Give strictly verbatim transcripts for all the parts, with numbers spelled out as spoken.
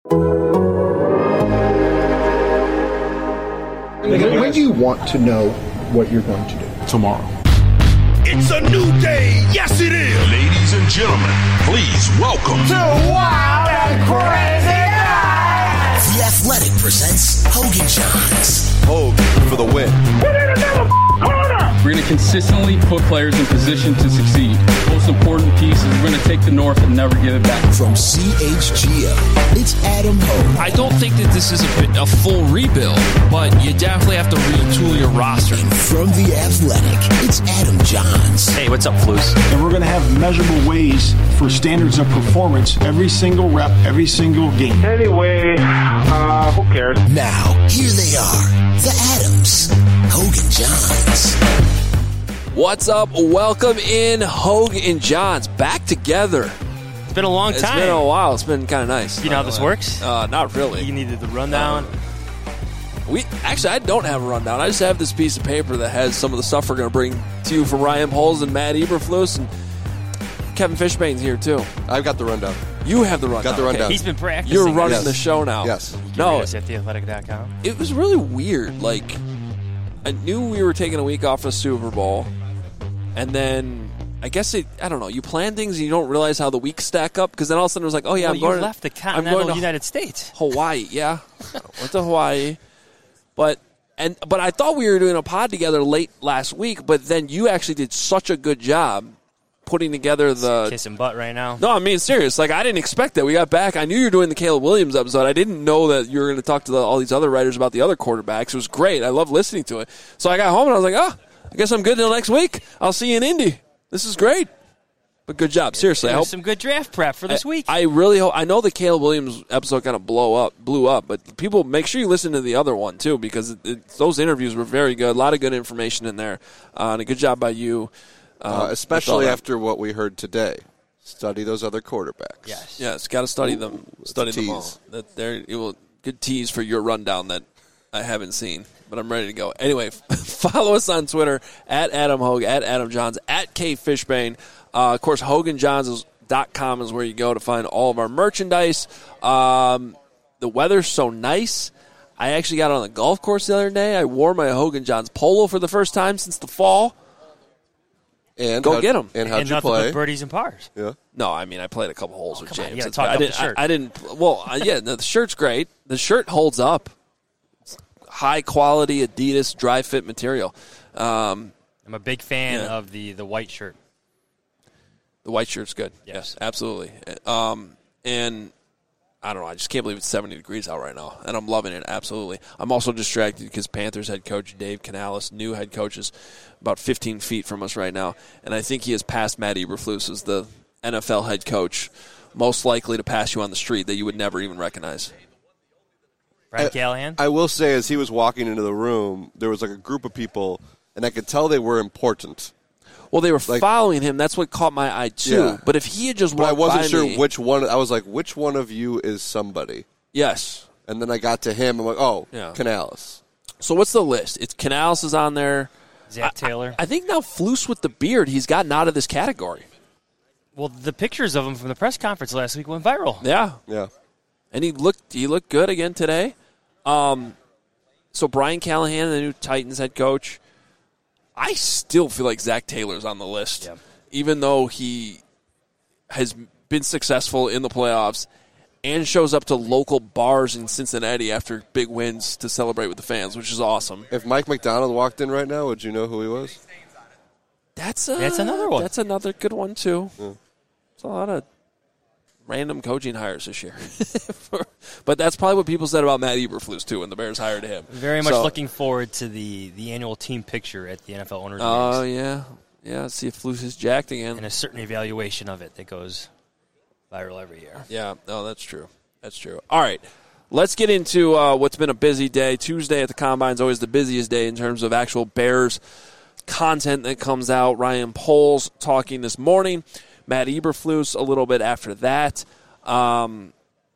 When do you want to know what you're going to do? Tomorrow. It's a new day. Yes, it is. Ladies and gentlemen, please welcome to Wild and Crazy Nights. The Athletic presents Hogan Johns. Hogan for the win. Put in another corner. We're going to consistently put players in position to succeed. Most important piece is we're going to take the North and never give it back. From C H G O, it's Adam Hogan. I don't think that this is a, a full rebuild, but you definitely have to retool your roster. And from The Athletic, it's Adam Johns. Hey, what's up, Flus? And we're going to have measurable ways for standards of performance every single rep, every single game. Anyway, uh, who cares? Now, here they are, the Adams, Hogan Johns. What's up? Welcome in, Hogan and Johns, back together. It's been a long time. It's been a while. It's been kind of nice. You know how this works? Uh, not really. You needed the rundown. Uh, we actually, I don't have a rundown. I just have this piece of paper that has some of the stuff we're going to bring to you from Ryan Poles and Matt Eberflus, and Kevin Fishbane's here too. I've got the rundown. You have the rundown. Got the rundown. Okay. He's been practicing. You're running yes. the show now. Yes. You can no, read us at the athletic dot com. It was really weird. Like, I knew we were taking a week off the Super Bowl. And then, I guess it, I don't know, you plan things and you don't realize how the weeks stack up, because then all of a sudden it was like, oh, yeah, well, I'm going you left the continental I'm going to United States. Hawaii, yeah. Went to Hawaii. But and but I thought we were doing a pod together late last week, but then you actually did such a good job putting together the... Kissing butt right now. No, I mean, serious. Like, I didn't expect that. We got back. I knew you were doing the Caleb Williams episode. I didn't know that you were going to talk to the, all these other writers about the other quarterbacks. It was great. I love listening to it. So I got home and I was like, oh, I guess I'm good until next week. I'll see you in Indy. This is great. But good job. Seriously. There's I hope some good draft prep for this I, week. I really hope. I know the Caleb Williams episode kind of blow up, blew up, but people, make sure you listen to the other one, too, because it, it, those interviews were very good. A lot of good information in there. Uh, and a good job by you. Uh, uh, especially after what we heard today. Study those other quarterbacks. Yes. Yes, got to study Ooh, them. Study them all. That there, it will good tease for your rundown that I haven't seen, but I'm ready to go. Anyway, follow us on Twitter at Adam Hogue, at Adam Johns, at K Fishbane. Uh, of course, Hogan Johns dot com is where you go to find all of our merchandise. Um, the weather's so nice. I actually got on the golf course the other day. I wore my Hogan Johns polo for the first time since the fall. And go get them. And how'd and you nothing play? but birdies and pars. Yeah. No, I mean I played a couple holes oh, with come James. On, you gotta talk I up didn't. the shirt. I, I didn't. Well, uh, yeah, the shirt's great. The shirt holds up. It's high quality Adidas dry fit material. Um, I'm a big fan yeah. of the, the white shirt. The white shirt's good. Yes, yes absolutely. Um, and I don't know. I just can't believe it's seventy degrees out right now, and I'm loving it. Absolutely. I'm also distracted because Panthers head coach Dave Canales, new head coach, is about fifteen feet from us right now, and I think he has passed Matt Eberflus as the N F L head coach most likely to pass you on the street that you would never even recognize. Brian Callahan? I will say, as he was walking into the room, there was like a group of people, and I could tell they were important. Well, they were like, following him. That's what caught my eye, too. Yeah. But if he had just walked But I wasn't by sure me, which one. I was like, which one of you is somebody? Yes. And then I got to him. I'm like, oh, yeah. Canales. So what's the list? It's Canales is on there. Zach Taylor. I, I think now Flus with the beard, he's gotten out of this category. Well, the pictures of him from the press conference last week went viral. Yeah. Yeah. And he looked he looked good again today. Um, so Brian Callahan, the new Titans head coach, I still feel like Zach Taylor's on the list, yep. even though he has been successful in the playoffs and shows up to local bars in Cincinnati after big wins to celebrate with the fans, which is awesome. If Mike McDonald walked in right now, would you know who he was? That's, a, that's another one. That's another good one, too. Yeah. It's a lot of random coaching hires this year. But that's probably what people said about Matt Eberflus, too, when the Bears hired him. Very much so, looking forward to the, the annual team picture at the N F L owners' Oh, meetings. uh, yeah. Yeah, see if Flus is jacked again. And a certain evaluation of it that goes viral every year. Yeah, no, that's true. That's true. All right, let's get into uh, what's been a busy day. Tuesday at the Combine is always the busiest day in terms of actual Bears content that comes out. Ryan Poles talking this morning. Matt Eberflus a little bit after that. Um,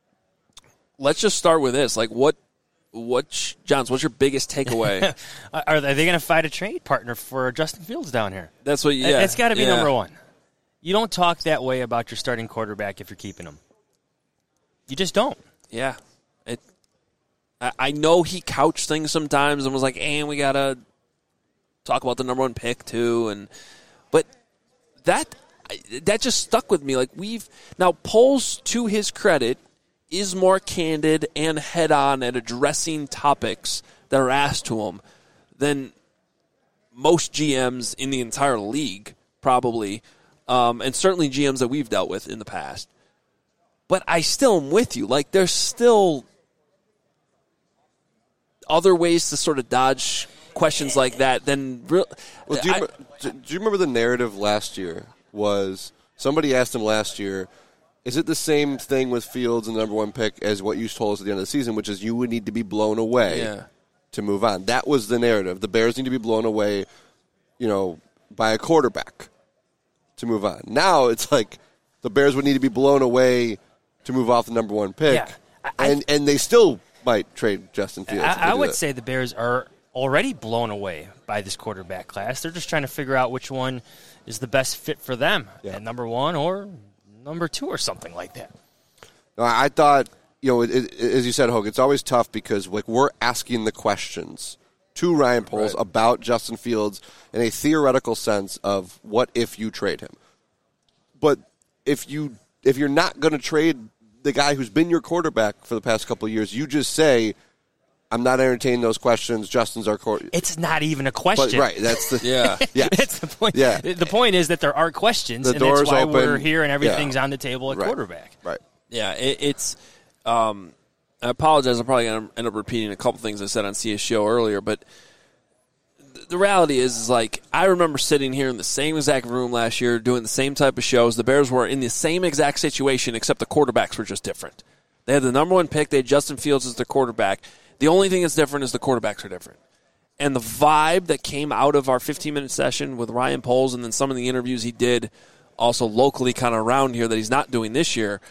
let's just start with this. Like, what, what, Johns, what's your biggest takeaway? Are they going to find a trade partner for Justin Fields down here? That's what, yeah. It's got to be yeah. number one. You don't talk that way about your starting quarterback if you're keeping him. You just don't. Yeah. It. I, I know he couched things sometimes and was like, and we got to talk about the number one pick too. And But that that just stuck with me. Like we've now, Poles, to his credit, is more candid and head-on at addressing topics that are asked to him than most G Ms in the entire league, probably, um, and certainly G Ms that we've dealt with in the past. But I still am with you. Like, there's still other ways to sort of dodge questions like that than real. Well, do, you, I, do you remember the narrative last year was somebody asked him last year, is it the same thing with Fields and the number one pick as what you told us at the end of the season, which is you would need to be blown away yeah. to move on? That was the narrative. The Bears need to be blown away, you know, by a quarterback to move on. Now it's like the Bears would need to be blown away to move off the number one pick, yeah, I, and and they still might trade Justin Fields. I, I would that. say the Bears are already blown away by this quarterback class. They're just trying to figure out which one is the best fit for them yeah. at number one or number two or something like that. No, I thought, you know, it, it, as you said, Hogue, it's always tough because like we're asking the questions to Ryan Poles right. about Justin Fields in a theoretical sense of what if you trade him. But if you if you're not going to trade the guy who's been your quarterback for the past couple of years, you just say, I'm not entertaining those questions. Justin's our quarterback. It's not even a question. But, right, that's the yeah. yeah. That's the point. Yeah. The point is that there are questions, the and that's why open. we're here and everything's yeah. on the table at right. quarterback. Right. Yeah, it, it's. Um, I apologize. I'm probably going to end up repeating a couple things I said on C S show earlier, but th- the reality is, is like I remember sitting here in the same exact room last year, doing the same type of shows. The Bears were in the same exact situation, except the quarterbacks were just different. They had the number one pick. They had Justin Fields as their quarterback. The only thing that's different is the quarterbacks are different. And the vibe that came out of our fifteen-minute session with Ryan Poles and then some of the interviews he did also locally kind of around here that he's not doing this year,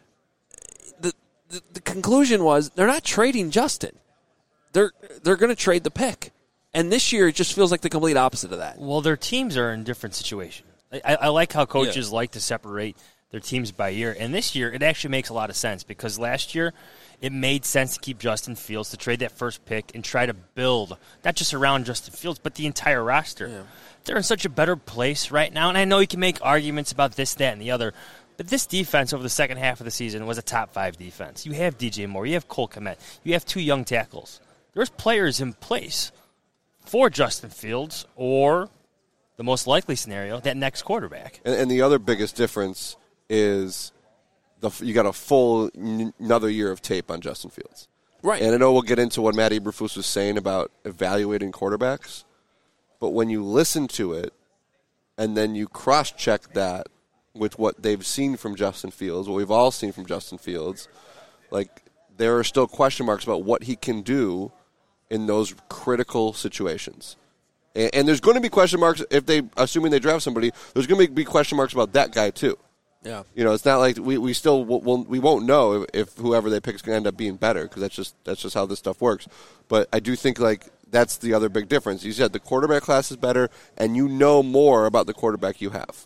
the, the, the conclusion was they're not trading Justin. They're, they're going to trade the pick. And this year it just feels like the complete opposite of that. Well, their teams are in different situations. I, I like how coaches yeah. like to separate their teams by year. And this year it actually makes a lot of sense because last year – it made sense to keep Justin Fields, to trade that first pick and try to build, not just around Justin Fields, but the entire roster. Yeah. They're in such a better place right now, and I know you can make arguments about this, that, and the other, but this defense over the second half of the season was a top five defense. You have D J Moore, you have Cole Kmet, you have two young tackles. There's players in place for Justin Fields or, the most likely scenario, that next quarterback. And, and the other biggest difference is The, you got a full n- another year of tape on Justin Fields. Right. And I know we'll get into what Matt Eberflus was saying about evaluating quarterbacks, but when you listen to it and then you cross-check that with what they've seen from Justin Fields, what we've all seen from Justin Fields, like there are still question marks about what he can do in those critical situations. And, and there's going to be question marks if they, assuming they draft somebody, there's going to be question marks about that guy too. Yeah, you know, it's not like we, we still will, we won't know if, if whoever they pick is going to end up being better because that's just that's just how this stuff works. But I do think like that's the other big difference. You said the quarterback class is better, and you know more about the quarterback you have.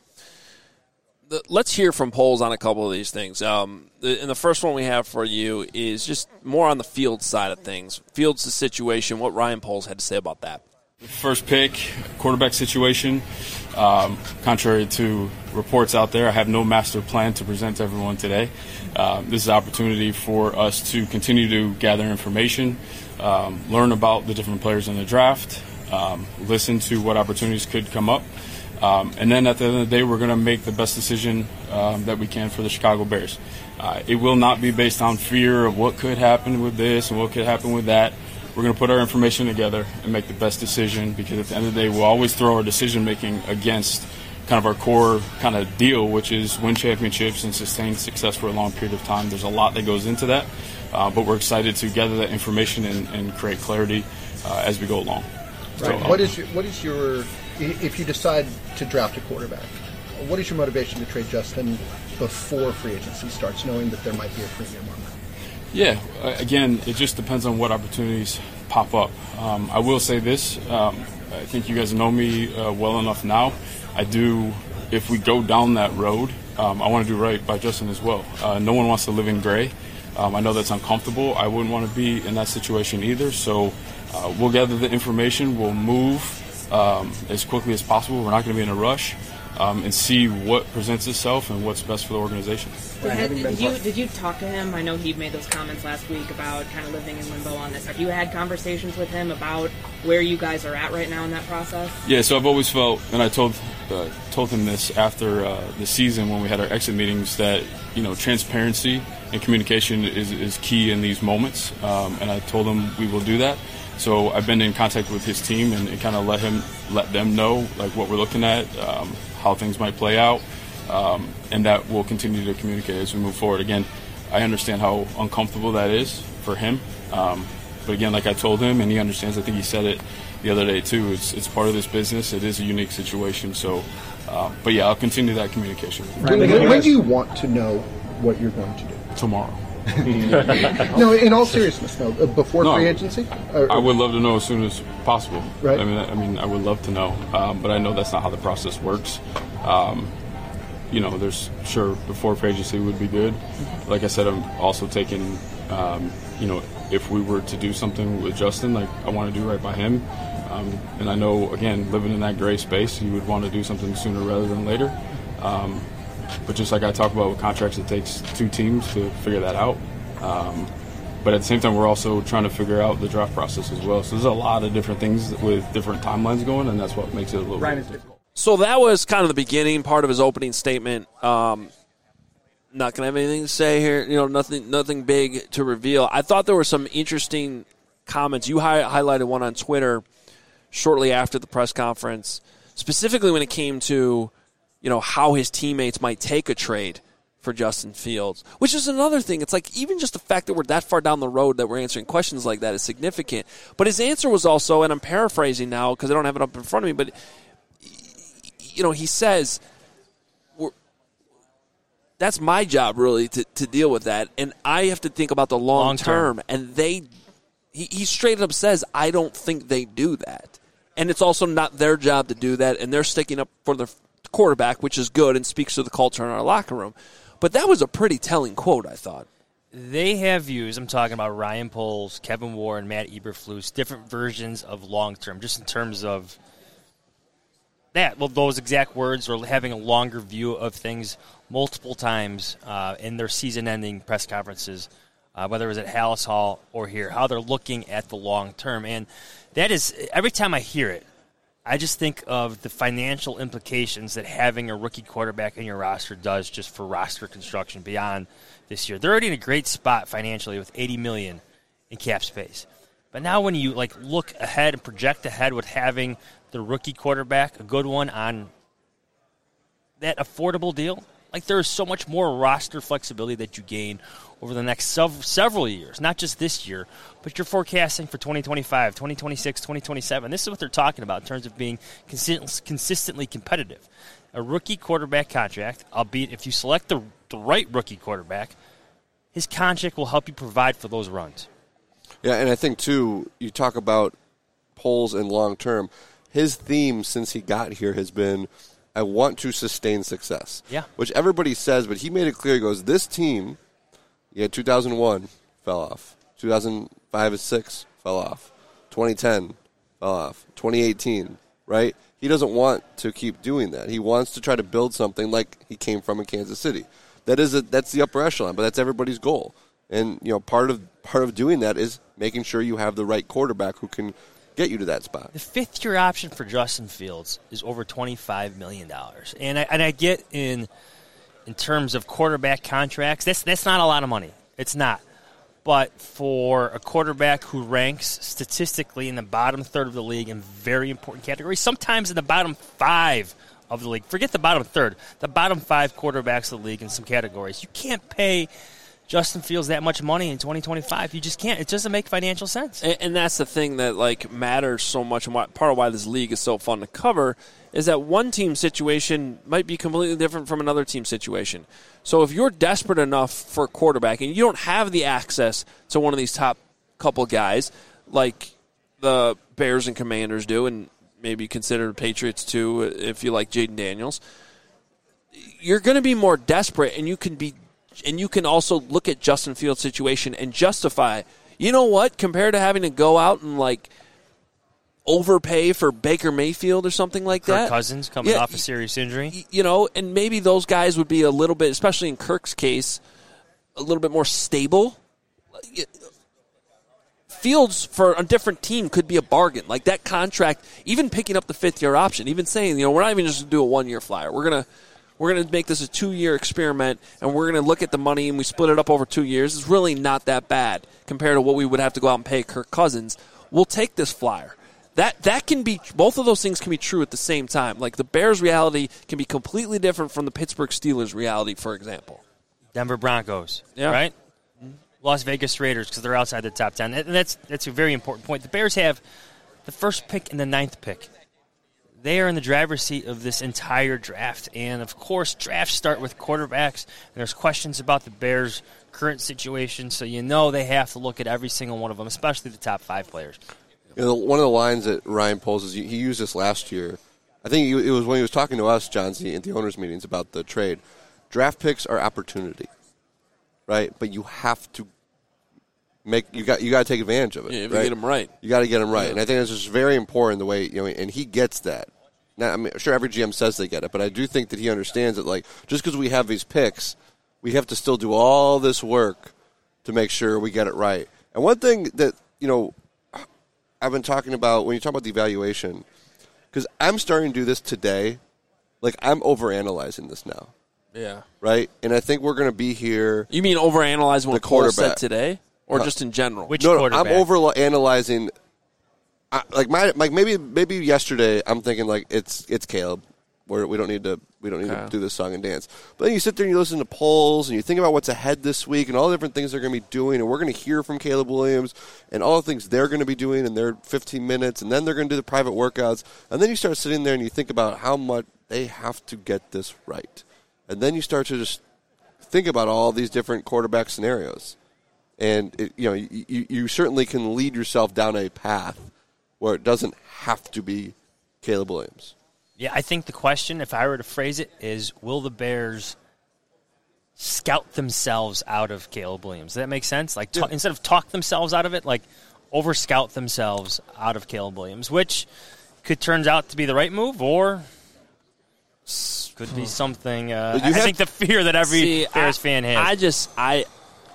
The, let's hear from Poles on a couple of these things. Um, the, and the first one we have for you is just more on the field side of things. Fields' situation. What Ryan Poles had to say about that. First pick, quarterback situation. Um, contrary to reports out there, I have no master plan to present to everyone today. Um, this is an opportunity for us to continue to gather information, um, learn about the different players in the draft, um, listen to what opportunities could come up. Um, and then at the end of the day, we're going to make the best decision um, that we can for the Chicago Bears. Uh, it will not be based on fear of what could happen with this and what could happen with that. We're going to put our information together and make the best decision because at the end of the day, we'll always throw our decision-making against kind of our core kind of deal, which is win championships and sustain success for a long period of time. There's a lot that goes into that, uh, but we're excited to gather that information and, and create clarity uh, as we go along. Right. So, um, what is your, what is your, if you decide to draft a quarterback, what is your motivation to trade Justin before free agency starts, knowing that there might be a premium on that? Yeah, again, it just depends on what opportunities pop up. Um, I will say this, um, I think you guys know me uh, well enough now. I do, if we go down that road, um, I want to do right by Justin as well. Uh, no one wants to live in gray. Um, I know that's uncomfortable. I wouldn't want to be in that situation either. So uh, we'll gather the information. We'll move um, as quickly as possible. We're not going to be in a rush. Um, and see what presents itself and what's best for the organization. Did, did you did you talk to him? I know he made those comments last week about kind of living in limbo on this. Have you had conversations with him about where you guys are at right now in that process? Yeah, so I've always felt, and I told uh, told him this after uh, the season when we had our exit meetings, that you know transparency and communication is, is key in these moments, um, and I told him we will do that. So I've been in contact with his team and, and kind of let him let them know like what we're looking at. Um, how things might play out, um, and that we'll continue to communicate as we move forward. Again, I understand how uncomfortable that is for him, um, but again, like I told him, and he understands, I think he said it the other day too, it's, it's part of this business, it is a unique situation, so, uh, but yeah, I'll continue that communication. When, when, when do you want to know what you're going to do? Tomorrow. No, in all seriousness, no. Uh, before no, free agency, or, I would love to know as soon as possible. Right. I mean, I mean, I would love to know, um, but I know that's not how the process works. Um, you know, there's sure before free agency would be good. Like I said, I'm also taking, um, you know, if we were to do something with Justin, like I want to do right by him, um, and I know again, living in that gray space, you would want to do something sooner rather than later. Um, But just like I talk about with contracts, it takes two teams to figure that out. Um, but at the same time, we're also trying to figure out the draft process as well. So there's a lot of different things with different timelines going, and that's what makes it a little bit difficult. So that was kind of the beginning part of his opening statement. Um, not going to have anything to say here. You know, nothing, nothing big to reveal. I thought there were some interesting comments. You hi- highlighted one on Twitter shortly after the press conference, specifically when it came to, you know, how his teammates might take a trade for Justin Fields, which is another thing. It's like even just the fact that we're that far down the road that we're answering questions like that is significant. But his answer was also, and I'm paraphrasing now because I don't have it up in front of me, but, you know, he says, we're, that's my job really to, to deal with that, and I have to think about the long, long term. term. And they, he, he straight up says, I don't think they do that. And it's also not their job to do that, and they're sticking up for their quarterback, which is good and speaks to the culture in our locker room. But that was a pretty telling quote, I thought. They have views, I'm talking about Ryan Poles, Kevin Warren, Matt Eberflus, different versions of long-term, just in terms of that, well, those exact words, or having a longer view of things multiple times uh, in their season-ending press conferences, uh, whether it was at Hallis Hall or here, how they're looking at the long-term. And that is, every time I hear it, I just think of the financial implications that having a rookie quarterback in your roster does just for roster construction beyond this year. They're already in a great spot financially with eighty million dollars in cap space. But now when you like look ahead and project ahead with having the rookie quarterback, a good one on that affordable deal, like there is so much more roster flexibility that you gain over the next sev- several years, not just this year, but you're forecasting for twenty twenty-five, twenty twenty-six, twenty twenty-seven. This is what they're talking about in terms of being consist- consistently competitive. A rookie quarterback contract, albeit if you select the, the right rookie quarterback, his contract will help you provide for those runs. Yeah, and I think, too, you talk about Poles and long-term. His theme since he got here has been, I want to sustain success. Yeah. Which everybody says, but he made it clear. He goes, this team, yeah, two thousand one fell off. two thousand five and six fell off. twenty ten fell off. twenty eighteen, right? He doesn't want to keep doing that. He wants to try to build something like he came from in Kansas City. That is a, that's the upper echelon, but that's everybody's goal. And, you know, part of part of doing that is making sure you have the right quarterback who can get you to that spot. The fifth-year option for Justin Fields is over twenty-five million dollars. And I, and I get in in terms of quarterback contracts, that's, that's not a lot of money. It's not. But for a quarterback who ranks statistically in the bottom third of the league in very important categories, sometimes in the bottom five of the league, forget the bottom third, the bottom five quarterbacks of the league in some categories, you can't pay Justin Fields that much money in twenty twenty-five. You just can't. It doesn't make financial sense. And, and that's the thing that like matters so much, and why, part of why this league is so fun to cover is that one team situation might be completely different from another team situation. So if you're desperate enough for a quarterback and you don't have the access to one of these top couple guys like the Bears and Commanders do, and maybe consider the Patriots too if you like Jaden Daniels, you're going to be more desperate, and you can be and you can also look at Justin Fields' situation and justify, you know what, compared to having to go out and, like, overpay for Baker Mayfield or something like Kirk that. Cousins coming Yeah, off a serious injury. You know, and maybe those guys would be a little bit, especially in Kirk's case, a little bit more stable. Fields for a different team could be a bargain. Like that contract, even picking up the fifth-year option, even saying, you know, we're not even just going to do a one-year flyer. We're going to we're going to make this a two-year experiment, and we're going to look at the money, and we split it up over two years. It's really not that bad compared to what we would have to go out and pay Kirk Cousins. We'll take this flyer. That that can be, both of those things can be true at the same time. Like the Bears' reality can be completely different from the Pittsburgh Steelers' reality, for example. Denver Broncos, yeah. right? Las Vegas Raiders, because they're outside the top ten. And that's that's a very important point. The Bears have the first pick and the ninth pick. They are in the driver's seat of this entire draft. And, of course, drafts start with quarterbacks. And there's questions about the Bears' current situation, so you know they have to look at every single one of them, especially the top five players. You know, one of the lines that Ryan pulls, he used this last year. I think it was when he was talking to us, John Z, at the owners' meetings about the trade. Draft picks are opportunity, right? But you have to make you got you got to take advantage of it. Yeah, if right? you get them right, you got to get them right. Yeah. And I think it's just very important the way you know, and he gets that. Now, I mean, sure, every G M says they get it, but I do think that he understands that. Like, just because we have these picks, we have to still do all this work to make sure we get it right. And one thing that you know. I've been talking about, when you talk about the evaluation, because I'm starting to do this today, like I'm overanalyzing this now. Yeah. Right? And I think we're going to be here. You mean overanalyzing what Cole said today? Or no. just in general? Which no, quarterback? No, I'm overanalyzing. I, like my, like maybe maybe yesterday I'm thinking like it's it's Caleb. We're, we don't need to we don't need okay. to do this song and dance. But then you sit there and you listen to polls and you think about what's ahead this week and all the different things they're going to be doing, and we're going to hear from Caleb Williams and all the things they're going to be doing in their fifteen minutes, and then they're going to do the private workouts, and then you start sitting there and you think about how much they have to get this right, and then you start to just think about all these different quarterback scenarios, and it, you know you, you certainly can lead yourself down a path where it doesn't have to be Caleb Williams. Yeah, I think the question, if I were to phrase it, is will the Bears scout themselves out of Caleb Williams? Does that make sense? Like ta- yeah. instead of talk themselves out of it, like over-scout themselves out of Caleb Williams, which could turn out to be the right move or could be something. Uh, I have, think the fear that every see, Bears I, fan has. I just, I,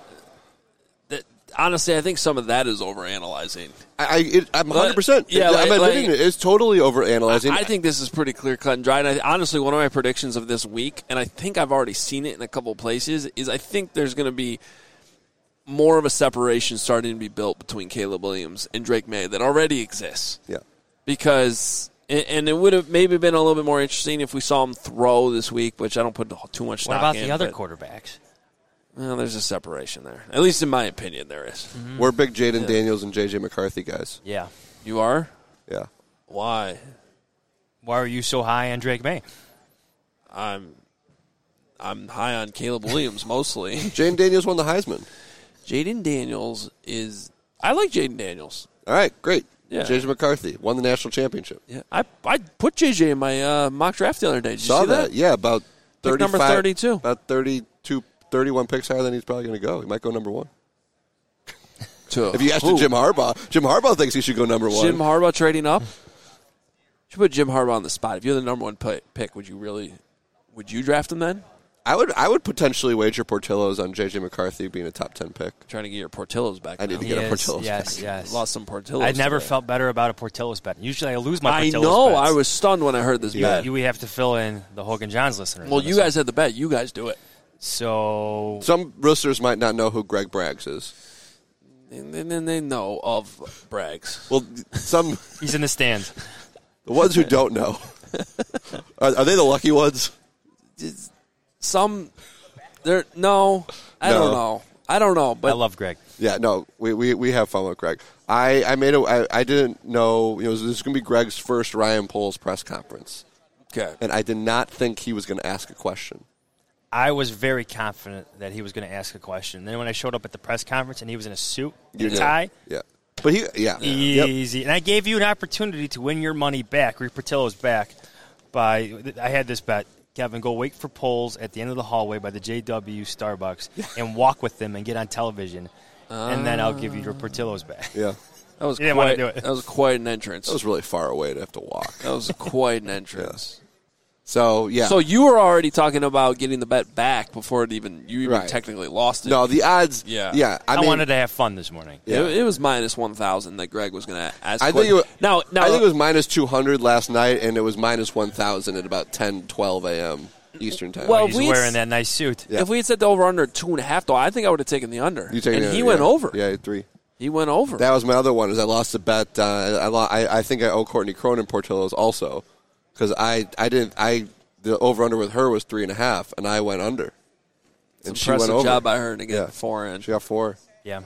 that, honestly, I think some of that is overanalyzing. I, it, I'm one hundred percent. Yeah, I'm like, admitting like, it. It's totally overanalyzing. I, I think this is pretty clear cut and dry. And I, honestly, one of my predictions of this week, and I think I've already seen it in a couple places, is I think there's going to be more of a separation starting to be built between Caleb Williams and Drake May that already exists. Yeah. Because, and it would have maybe been a little bit more interesting if we saw him throw this week, which I don't put too much stock in. What about the other but, quarterbacks? Well, there's a separation there. At least in my opinion, there is. Mm-hmm. We're big Jaden yeah. Daniels and J J McCarthy guys. Yeah. You are? Yeah. Why? Why are you so high on Drake May? I'm I'm high on Caleb Williams mostly. Jaden Daniels won the Heisman. Jaden Daniels is I like Jaden Daniels. All right, great. Yeah. J J McCarthy won the national championship. Yeah. I I put J J in my uh, mock draft the other day. Did you Saw see that? that? Yeah, about Pick number thirty-two. About thirty-two, thirty-one picks higher than he's probably going to go. He might go number one. To, if you ask ooh. Jim Harbaugh, Jim Harbaugh thinks he should go number one. Jim Harbaugh trading up? Should put Jim Harbaugh on the spot. If you're the number one pick, would you really would you draft him then? I would I would potentially wager Portillo's on J J McCarthy being a top ten pick. Trying to get your Portillo's back. I need now. to get Yes, a Portillo's yes, back. yes. Lost some Portillo's. I never today. felt better about a Portillo's bet. Usually I lose my I Portillo's know. bets. I was stunned when I heard this Yeah. bet. You, we have to fill in the Hogan Johns listeners. Well, you guys had the bet. You guys do it. So Some listeners might not know who Greg Braggs is. And then they know of Braggs. Well, some he's in the stands. The ones who don't know. Are, are they the lucky ones? Some, they're no, I No. don't know. I don't know, but I love Greg. Yeah, no, we, we, we have fun with Greg. I, I made a I, I didn't know you know this is going to be Greg's first Ryan Poles press conference. Okay, and I did not think he was going to ask a question. I was very confident that he was going to ask a question. Then when I showed up at the press conference and he was in a suit and a tie, yeah, but he yeah easy. Yep. And I gave you an opportunity to win your money back, or your Portillo's back. By I had this bet: Kevin, go wait for Poles at the end of the hallway by the J W Starbucks and walk with them and get on television, uh, and then I'll give you your Portillo's back. Yeah. That was you didn't quite, want to do it. That was quite an entrance. That was really far away to have to walk. That was quite an entrance. Yeah. So, yeah. So you were already talking about getting the bet back before it even you even right. technically lost it. No, the odds. Yeah. Yeah. I, I mean, wanted to have fun this morning. Yeah. It, it was minus one thousand that Greg was going to ask. I think, it was, now, now, I think it was minus two hundred last night, and it was minus one thousand at about ten, twelve a.m. Eastern time. Well, he's wearing that nice suit. Yeah. If we had said the over-under two and a half, though, I think I would have taken the under. You taken and the, he yeah. went over. Yeah, three. He went over. That was my other one. Is I lost a bet. Uh, I, lo- I I think I owe Courtney Cronin Portillo's also because I I didn't I the over under with her was three and a half and I went under. It's and she impressive went over. job by her to get yeah. four in. She got four. Yeah.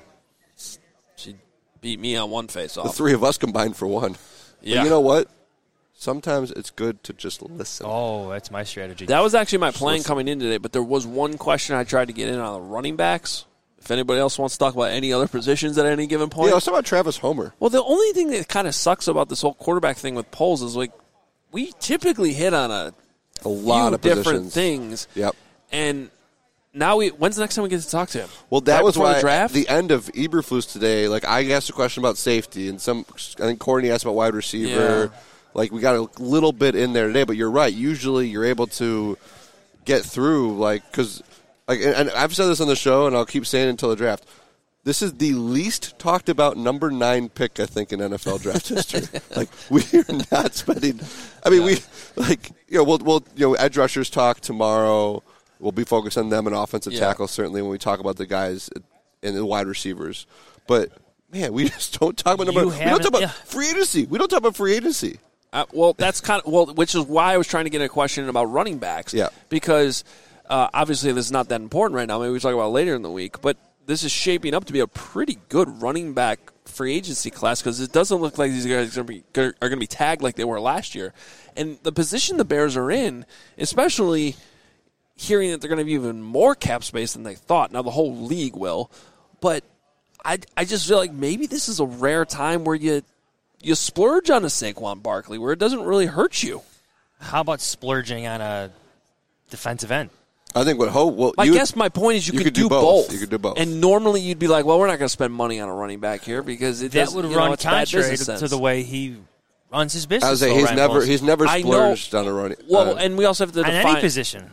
She beat me on one face off. The three of us combined for one. Yeah. But you know what? Sometimes it's good to just listen. Oh, that's my strategy. That was actually my plan coming in today, but there was one question I tried to get in on the running backs. If anybody else wants to talk about any other positions at any given point. Yeah, let's talk about Travis Homer. Well, the only thing that kind of sucks about this whole quarterback thing with Poles is, like, we typically hit on a, a lot few of different positions. things. Yep. And now we, when's the next time we get to talk to him? Well, that right was before why the draft? at the end of Eberflus today, like, I asked a question about safety, and some, I think Courtney asked about wide receiver. Yeah. Like, we got a little bit in there today, but you're right. Usually you're able to get through, like, because, like, and, and I've said this on the show, and I'll keep saying it until the draft. This is the least talked about number nine pick, I think, in N F L draft history. Like, we're not spending. I mean, yeah. we like you know we'll we'll you know edge rushers talk tomorrow. We'll be focused on them and offensive yeah. tackle certainly when we talk about the guys and the wide receivers. But man, we just don't talk about number. We don't talk about yeah. free agency. We don't talk about free agency. Uh, well, that's kind of well, which is why I was trying to get a question about running backs. Yeah, because uh, obviously this is not that important right now. Maybe we talk about it later in the week, but. This is shaping up to be a pretty good running back free agency class because it doesn't look like these guys are going to be tagged like they were last year. And the position the Bears are in, especially hearing that they're going to be even more cap space than they thought. Now, the whole league will. But I, I just feel like maybe this is a rare time where you you splurge on a Saquon Barkley where it doesn't really hurt you. How about splurging on a defensive end? I think what Ho. Well, I you, guess my point is you, you could, could do, do both. both. You could do both. And normally you'd be like, well, we're not going to spend money on a running back here because it that does, would you run know, it's bad contrary business to, sense. to the way he runs his business. I was saying though, he's Ryan never Poles. he's never I splurged know, on a running. Well, uh, and we also have to on define any position.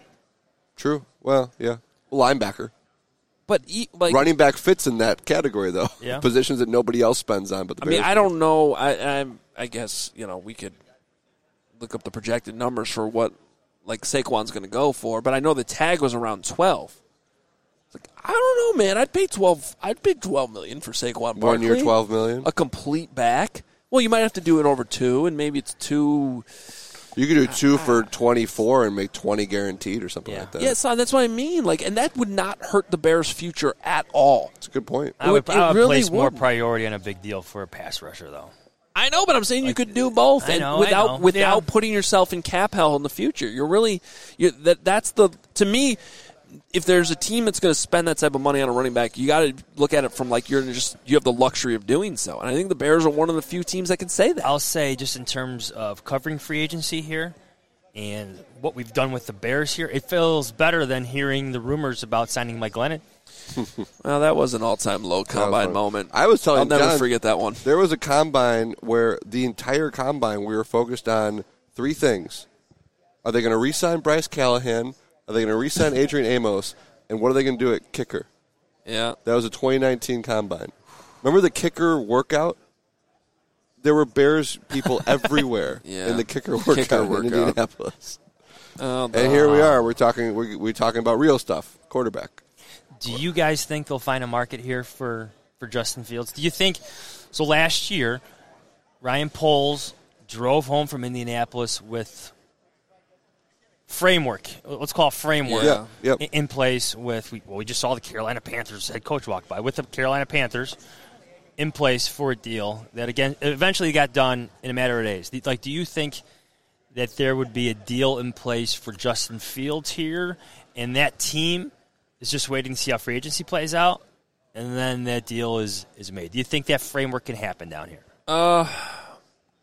True. Well, yeah, linebacker. But he, like, running back fits in that category, though. Yeah. Positions that nobody else spends on. But the I mean, Bears I don't know. I, I I guess you know we could look up the projected numbers for what like Saquon's going to go for, but I know the tag was around twelve. It's like I don't know, man. I'd pay twelve. I'd pay twelve million for Saquon Barkley. One year, twelve million. A complete back. Well, you might have to do it over two, and maybe it's two. You could do two for twenty-four and make twenty guaranteed or something Yeah. like that. Yeah, so that's what I mean. Like, and that would not hurt the Bears' future at all. That's a good point. I would, It I would really place more wouldn't. priority on a big deal for a pass rusher, though. I know, but I'm saying you could do both, I and know, I without know. without Yeah. putting yourself in cap hell in the future. You're really you're, that. That's the to me. If there's a team that's going to spend that type of money on a running back, you got to look at it from like you're just you have the luxury of doing so. And I think the Bears are one of the few teams that can say that. I'll say just in terms of covering free agency here and what we've done with the Bears here, it feels better than hearing the rumors about signing Mike Glennon. Well, that was an all-time low combine moment. I was telling I'll never John, forget that one. There was a combine where the entire combine we were focused on three things. Are they going to re-sign Bryce Callahan? Are they going to re-sign Adrian Amos? And what are they going to do at kicker? Yeah. That was a twenty nineteen combine. Remember the kicker workout? There were Bears people everywhere Yeah. in the kicker workout, Kicker in workout. Indianapolis. Oh, And here we are. We're talking. We're, we're talking about real stuff. Quarterback. Do you guys think they'll find a market here for, for Justin Fields? Do you think – so last year, Ryan Poles drove home from Indianapolis with framework. Let's call it framework Yeah. Yep. in, in place with – well, we just saw the Carolina Panthers head coach walk by. With the Carolina Panthers in place for a deal that, again, eventually got done in a matter of days. Like, do you think that there would be a deal in place for Justin Fields here and that team – is just waiting to see how free agency plays out, and then that deal is, is made? Do you think that framework can happen down here? Uh,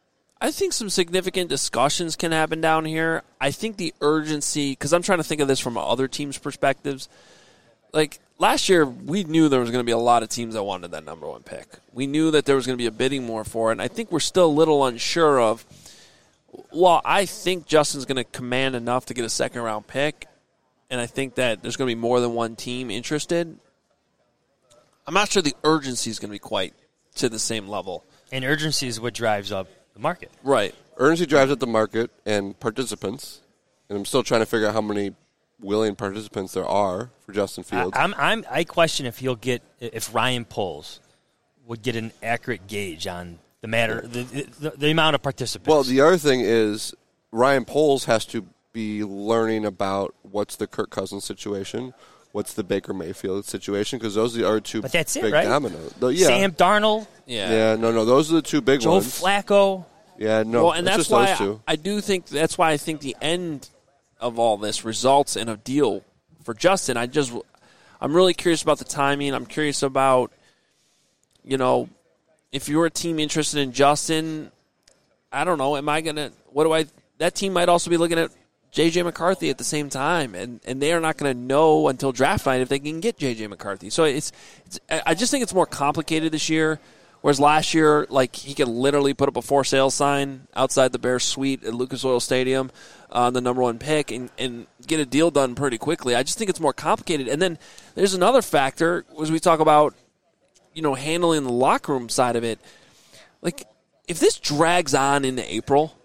I think some significant discussions can happen down here. I think the urgency, because I'm trying to think of this from other teams' perspectives. Like, last year, we knew there was going to be a lot of teams that wanted that number one pick. We knew that there was going to be a bidding war for it, and I think we're still a little unsure of, well, I think Justin's going to command enough to get a second-round pick, and I think that there's going to be more than one team interested. I'm not sure the urgency is going to be quite to the same level. And urgency is what drives up the market. Right. Urgency drives up the market and participants, and I'm still trying to figure out how many willing participants there are for Justin Fields. I, I'm, I'm, I question if he'll get if Ryan Poles would get an accurate gauge on the matter, the, the, the amount of participants. Well, the other thing is Ryan Poles has to be learning about what's the Kirk Cousins situation, what's the Baker Mayfield situation, because those are two but that's big it, right? dominoes. Though, yeah. Sam Darnold. Yeah. Yeah, no, no, those are the two big Joe ones. Joe Flacco. Yeah, no, well, and it's that's just why those two. I, I do think that's why I think the end of all this results in a deal for Justin. I just, I'm really curious about the timing. I'm curious about, you know, if you're a team interested in Justin, I don't know. Am I gonna? What do I? That team might also be looking at J J McCarthy at the same time, and, and they are not going to know until draft night if they can get J J McCarthy. So it's, it's, I just think it's more complicated this year. Whereas last year, like he could literally put up a for sale sign outside the Bears suite at Lucas Oil Stadium on uh, the number one pick and, and get a deal done pretty quickly. I just think it's more complicated. And then there's another factor as we talk about, you know, handling the locker room side of it. Like if this drags on into April.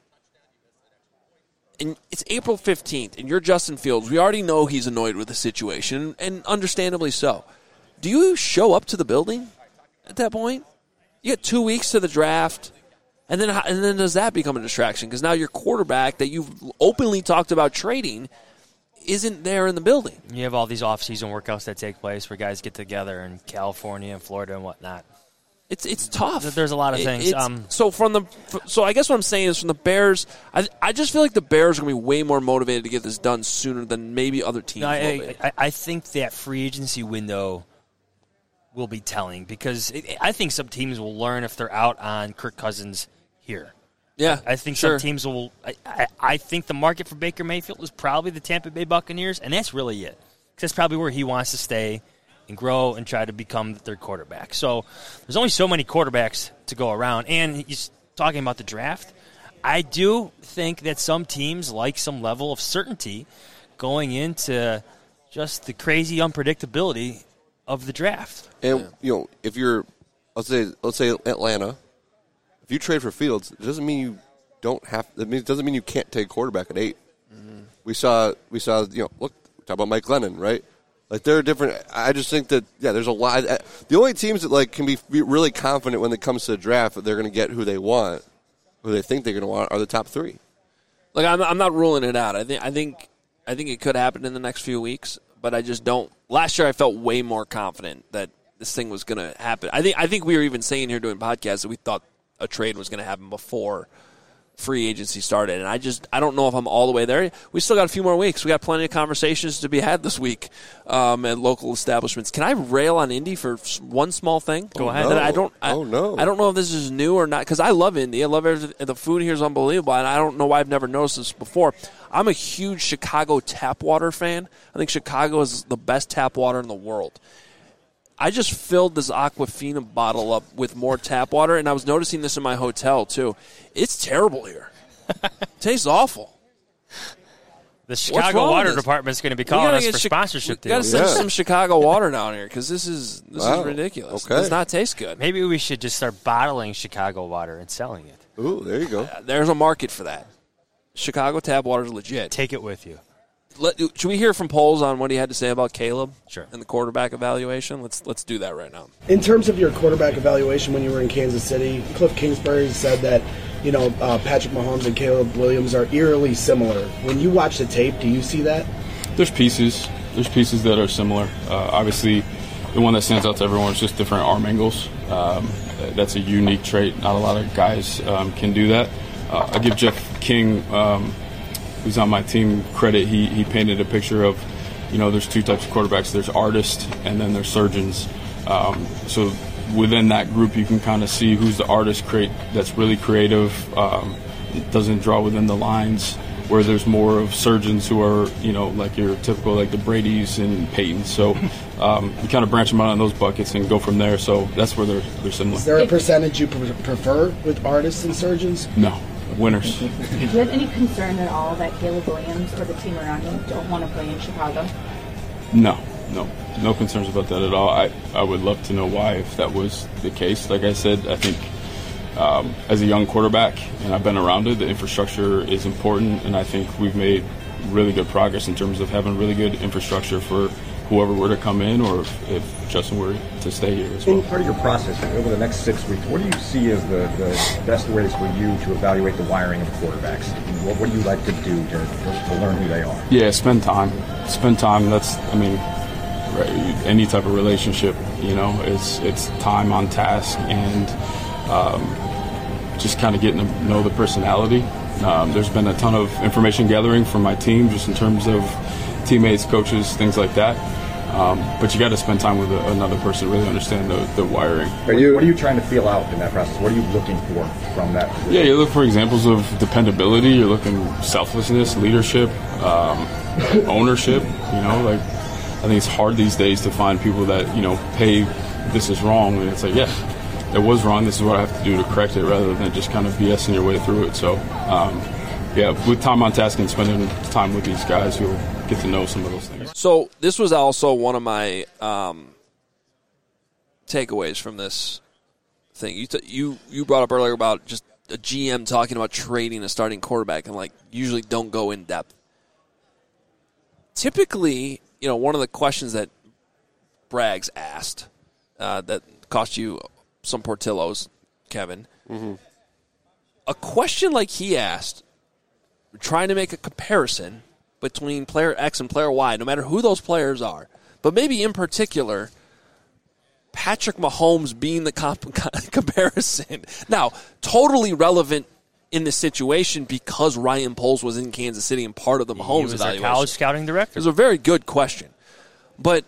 And it's April fifteenth, and you're Justin Fields. We already know he's annoyed with the situation, and understandably so. Do you show up to the building at that point? You get two weeks to the draft, and then and then does that become a distraction? Because now your quarterback that you've openly talked about trading isn't there in the building. You have all these off-season workouts that take place where guys get together in California and Florida and whatnot. It's it's tough. There's a lot of things. It, um, so from the so I guess what I'm saying is from the Bears, I I just feel like the Bears are going to be way more motivated to get this done sooner than maybe other teams. I, will be. I, I think that free agency window will be telling because it, I think some teams will learn if they're out on Kirk Cousins here. Yeah, I think sure. some teams will. I, I, I think the market for Baker Mayfield is probably the Tampa Bay Buccaneers, and that's really it. Because that's probably where he wants to stay and grow and try to become the third quarterback. So there's only so many quarterbacks to go around. And he's talking about the draft. I do think that some teams like some level of certainty going into just the crazy unpredictability of the draft. And, you know, if you're, let's say, let's say Atlanta, if you trade for Fields, it doesn't mean you don't have, it doesn't mean you can't take quarterback at eight. Mm-hmm. We saw, we saw, you know, look, talk about Mike Glennon, right? Like, there are different – I just think that, yeah, there's a lot – the only teams that, like, can be really confident when it comes to the draft that they're going to get who they want, who they think they're going to want, are the top three. Like, I'm, I'm not ruling it out. I think I think, I think it could happen in the next few weeks, but I just don't – last year I felt way more confident that this thing was going to happen. I think I think we were even saying here doing podcasts that we thought a trade was going to happen before – free agency started, and I just I don't know if I'm all the way there. We still got a few more weeks. We got plenty of conversations to be had this week um, at local establishments. Can I rail on Indy for one small thing? Go oh, ahead. No. I don't. I, oh no! I don't know if this is new or not because I love Indy. I love everything. The food here is unbelievable, and I don't know why I've never noticed this before. I'm a huge Chicago tap water fan. I think Chicago is the best tap water in the world. I just filled this Aquafina bottle up with more tap water, and I was noticing this in my hotel, too. It's terrible here. It tastes awful. The Chicago Water Department is going to be calling us for Chi- sponsorship deals. We got to send yeah. some Chicago water down here because this is this wow. is ridiculous. Okay. It does not taste good. Maybe we should just start bottling Chicago water and selling it. Ooh, there you go. Uh, there's a market for that. Chicago tap water is legit. Take it with you. Let, should we hear from Poles on what he had to say about Caleb? Sure. And the quarterback evaluation? Let's let's do that right now. In terms of your quarterback evaluation when you were in Kansas City, Cliff Kingsbury said that, you know, uh, Patrick Mahomes and Caleb Williams are eerily similar. When you watch the tape, do you see that? There's pieces. There's pieces that are similar. Uh, obviously, the one that stands out to everyone is just different arm angles. Um, that's a unique trait. Not a lot of guys um, can do that. Uh, I give Jeff King, um, who's on my team, credit. He he painted a picture of, you know, there's two types of quarterbacks. There's artists and then there's surgeons. Um, so within that group, you can kind of see who's the artist create that's really creative, um, it doesn't draw within the lines where there's more of surgeons who are, you know, like your typical, like the Bradys and Peytons. So um, we kind of branch them out on those buckets and go from there. So that's where they're, they're similar. Is there a percentage you pre- prefer with artists and surgeons? No. Winners. Do you have any concern at all that Caleb Williams or the team around him don't want to play in Chicago? No. No. No concerns about that at all. I, I would love to know why if that was the case. Like I said, I think Um, as a young quarterback, and I've been around it, the infrastructure is important, and I think we've made really good progress in terms of having really good infrastructure for whoever were to come in or if, if Justin were to stay here as well. In part of your process over the next six weeks, what do you see as the, the best ways for you to evaluate the wiring of quarterbacks? What, what do you like to do to, to, to learn who they are? Yeah, spend time. Spend time. That's, I mean, right, any type of relationship, you know, it's, it's time on task and um, just kind of getting to know the personality. Um, there's been a ton of information gathering from my team just in terms of teammates, coaches, things like that. Um, but you got to spend time with a, another person to really understand the, the wiring. Are you, what are you trying to feel out in that process? What are you looking for from that position? Yeah, you look for examples of dependability. You're looking selflessness, leadership, um, ownership. You know, like I think it's hard these days to find people that, you know, hey, this is wrong. And it's like, yeah, it was wrong. This is what I have to do to correct it rather than just kind of BSing your way through it. So, um, yeah, with time on task and spending time with these guys, you'll get to know some of those things. So this was also one of my um, takeaways from this thing. You, t- you you brought up earlier about just a G M talking about trading a starting quarterback and, like, usually don't go in depth. Typically, you know, one of the questions that Braggs asked uh, that cost you some Portillos, Kevin, mm-hmm. a question like he asked, trying to make a comparison between player X and player Y, no matter who those players are, but maybe in particular, Patrick Mahomes being the comp- comparison. Now, totally relevant in this situation because Ryan Poles was in Kansas City and part of the Mahomes he was evaluation. Their college scouting director. It was a very good question. But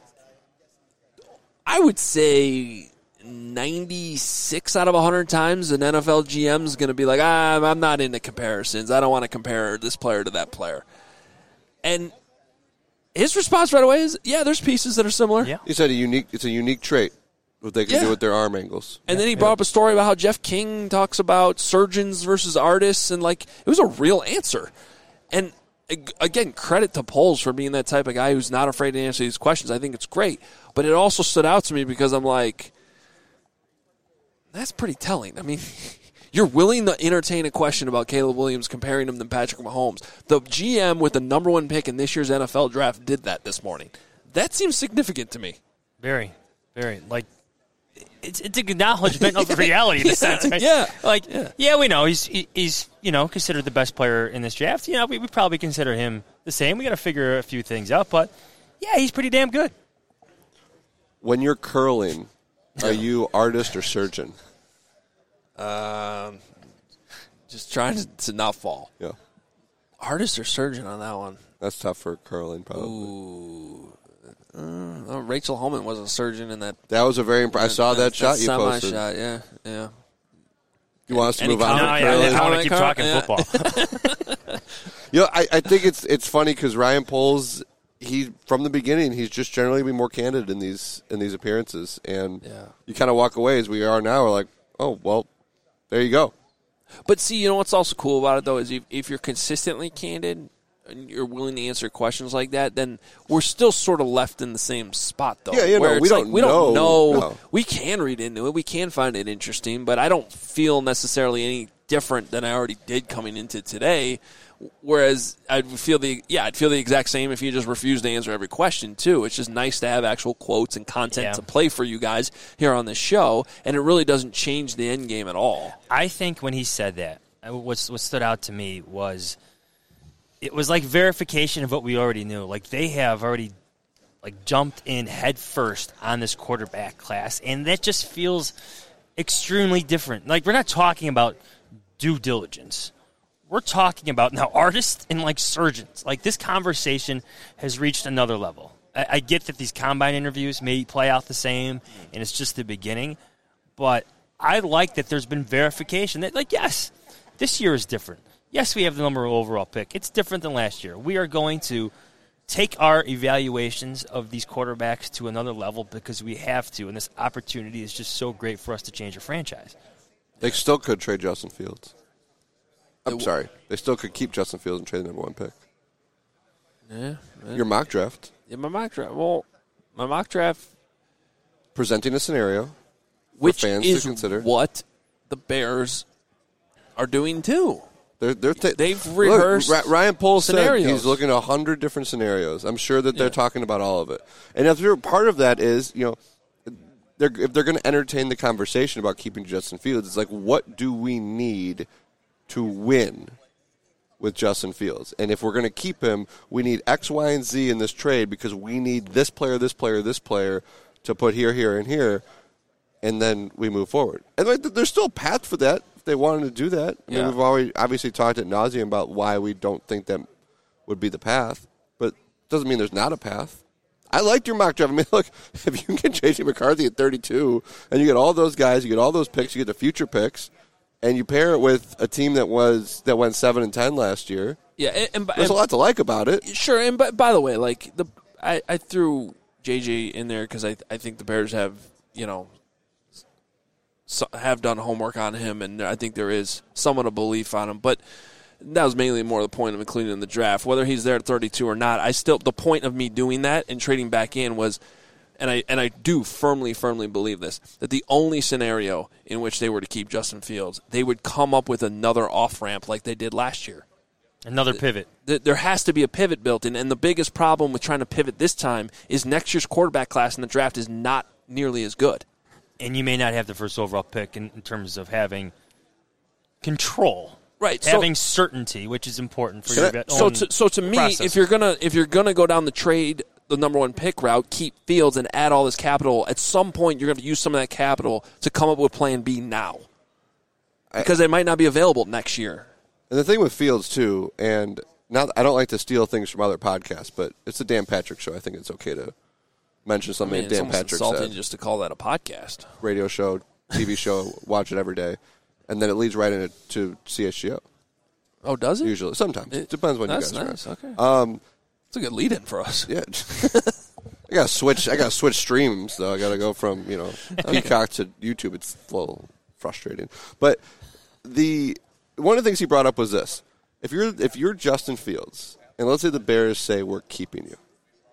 I would say ninety-six out of one hundred times an N F L G M is going to be like, ah, I'm not into comparisons. I don't want to compare this player to that player. And his response right away is, yeah, there's pieces that are similar. Yeah. He said a unique. It's a unique trait what they can Yeah. do with their arm angles. And then he brought up a story about how Jeff King talks about surgeons versus artists, and, like, it was a real answer. And again, credit to Poles for being that type of guy who's not afraid to answer these questions. I think it's great. But it also stood out to me because I'm like, that's pretty telling. I mean, you're willing to entertain a question about Caleb Williams comparing him to Patrick Mahomes. The G M with the number one pick in this year's N F L draft did that this morning. That seems significant to me. Very, very. Like, it's it's an acknowledgement of reality in yeah, a sense, right? Yeah. Like, yeah. yeah, we know he's he, he's you know considered the best player in this draft. You know, we, we probably consider him the same. We got to figure a few things out, but yeah, he's pretty damn good. When you're curling, are you artist or surgeon? Um, just trying to, to not fall. Yeah. Artist or surgeon on that one? That's tough for curling, probably. Ooh. Uh, Rachel Holman was a surgeon in that. That was a very imp- I saw that, that shot you posted. Shot, yeah, yeah. You want us to Any move on? No, yeah, I want to keep car? talking yeah. football. You know, I, I think it's it's funny because Ryan Poles, he from the beginning, he's just generally been more candid in these in these appearances, and yeah. you kind of walk away as we are now. We're like, oh well, there you go. But see, you know what's also cool about it though is if, if you're consistently candid and you're willing to answer questions like that, then we're still sort of left in the same spot though. Yeah, you know, where we it's don't like, we know. don't know. No. We can read into it. We can find it interesting, but I don't feel necessarily any different than I already did coming into today. Whereas I'd feel the yeah, I'd feel the exact same if you just refused to answer every question too. It's just nice to have actual quotes and content Yeah. to play for you guys here on this show, and it really doesn't change the end game at all. I think when he said that, what's what stood out to me was it was like verification of what we already knew. Like they have already like jumped in head first on this quarterback class, and that just feels extremely different. Like we're not talking about due diligence. We're talking about now artists and like surgeons. Like this conversation has reached another level. I, I get that these combine interviews may play out the same, and it's just the beginning. But I like that there's been verification that, like, yes, this year is different. Yes, we have the number one overall pick. It's different than last year. We are going to take our evaluations of these quarterbacks to another level because we have to, and this opportunity is just so great for us to change a franchise. They still could trade Justin Fields. I'm sorry. They still could keep Justin Fields and trade the number one pick. Yeah. Man. Your mock draft. Yeah, my mock draft. Well, my mock draft. Presenting a scenario which for fans is to consider. What the Bears are doing too. They're, they're t- They've rehearsed Look, Ryan Poles scenarios. said he's looking at a hundred different scenarios. I'm sure that they're yeah. talking about all of it. And if they're, part of that is, you know, they're, if they're going to entertain the conversation about keeping Justin Fields, it's like, what do we need to win with Justin Fields? And if we're going to keep him, we need X, Y, and Z in this trade because we need this player, this player, this player to put here, here, and here, and then we move forward. And like, there's still a path for that. They wanted to do that. I mean, yeah. we've already obviously talked at nauseum about why we don't think that would be the path, but it doesn't mean there's not a path. I liked your mock draft. I mean, look, if you can get J J McCarthy at thirty-two, and you get all those guys, you get all those picks, you get the future picks, and you pair it with a team that was that went seven and ten last year. Yeah, and, and there's and, a lot to like about it. Sure, and by, by the way, like the I, I threw J J in there because I I think the Bears have you know. So have done homework on him, and I think there is somewhat of belief on him. But that was mainly more the point of including him in the draft. Whether he's there at thirty-two or not, I still the point of me doing that and trading back in was, and I and I do firmly, firmly believe this, that the only scenario in which they were to keep Justin Fields, they would come up with another off-ramp like they did last year. Another pivot. There has to be a pivot built in, and the biggest problem with trying to pivot this time is next year's quarterback class in the draft is not nearly as good. And you may not have the first overall pick in, in terms of having control, right? Having so, certainty, which is important for so, your so own to, so to me, process. if you're gonna if you're gonna go down the trade the number one pick route, keep Fields and add all this capital. At some point, you're gonna use some of that capital to come up with Plan B now, because I, it might not be available next year. And the thing with Fields too, and not I don't like to steal things from other podcasts, but it's the Dan Patrick Show. I think it's okay to mention something I mean, Dan it's Patrick insulting said. just to call that a podcast. Radio show, T V show, watch it every day. And then it leads right into C H G O. Oh, does it? Usually. Sometimes. It depends when you that's guys nice. are. Okay. Um, it's a good lead-in for us. Yeah. I got to switch I got to switch streams, though. I got to go from, you know, Peacock to YouTube. It's a little frustrating. But the one of the things he brought up was this. If you're if you're Justin Fields, and let's say the Bears say we're keeping you,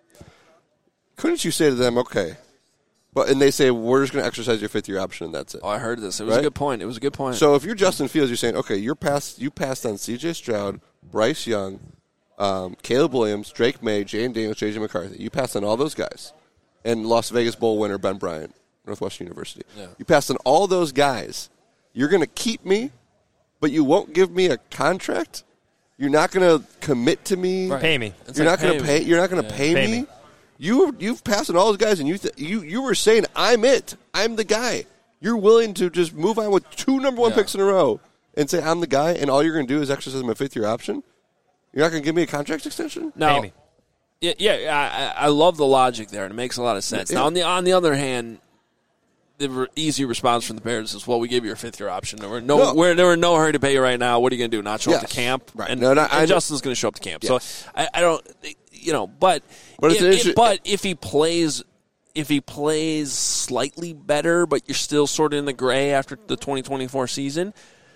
couldn't you say to them, okay, but and they say we're just going to exercise your fifth year option and that's it? Oh, I heard this. It was right? a good point. It was a good point. So if you're Justin Fields, you're saying, okay, you're passed. You passed on C J Stroud, Bryce Young, um, Caleb Williams, Drake May, Jane Daniels, J J McCarthy. You passed on all those guys, and Las Vegas Bowl winner Ben Bryant, Northwestern University. Yeah. You passed on all those guys. You're going to keep me, but you won't give me a contract. You're not going to commit to me. Right. Pay me. You're like not going to pay pay. You're not going to yeah. pay, pay me. me. You you've passed on all those guys, and you th- you you were saying I'm it. I'm the guy. You're willing to just move on with two number one yeah. picks in a row and say I'm the guy, and all you're going to do is exercise my fifth year option. You're not going to give me a contract extension. Now, yeah, yeah, I, I love the logic there, and it makes a lot of sense. Yeah. Now, on the on the other hand, the re- easy response from the Bears is, "Well, we gave you your fifth year option. There were no, No. we're there were no hurry to pay you right now. What are you going to do? Not show up Yes. to camp? Right. And, No, no, and I- Justin's going to show up to camp. Yes. So I, I don't, you know, but But it's if, an if- issue- but if he plays. If he plays slightly better, but you're still sort of in the gray after the twenty twenty-four season,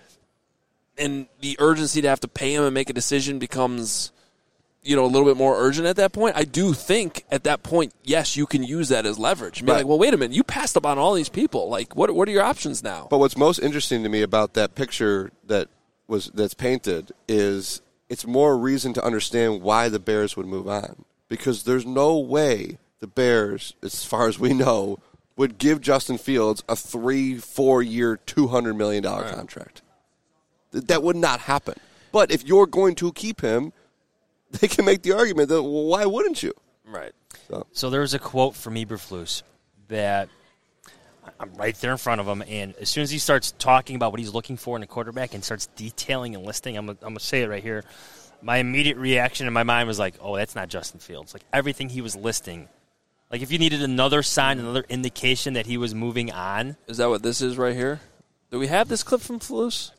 and the urgency to have to pay him and make a decision becomes, you know, a little bit more urgent at that point, I do think at that point, yes, you can use that as leverage. And be Right. like, well, wait a minute, you passed up on all these people. Like, what what are your options now? But what's most interesting to me about that picture that was that's painted is it's more reason to understand why the Bears would move on, because there's no way the Bears, as far as we know, would give Justin Fields a three, four-year, two hundred million dollars Right. contract. Th- That would not happen. But if you're going to keep him, they can make the argument that, well, why wouldn't you? Right. So, So there's a quote from Eberflus that I'm right there in front of him, and as soon as he starts talking about what he's looking for in a quarterback and starts detailing and listing, I'm, I'm going to say it right here, my immediate reaction in my mind was like, oh, that's not Justin Fields. Like, everything he was listing, like if you needed another sign, another indication that he was moving on. Is that what this is right here? Do we have this clip from Flus?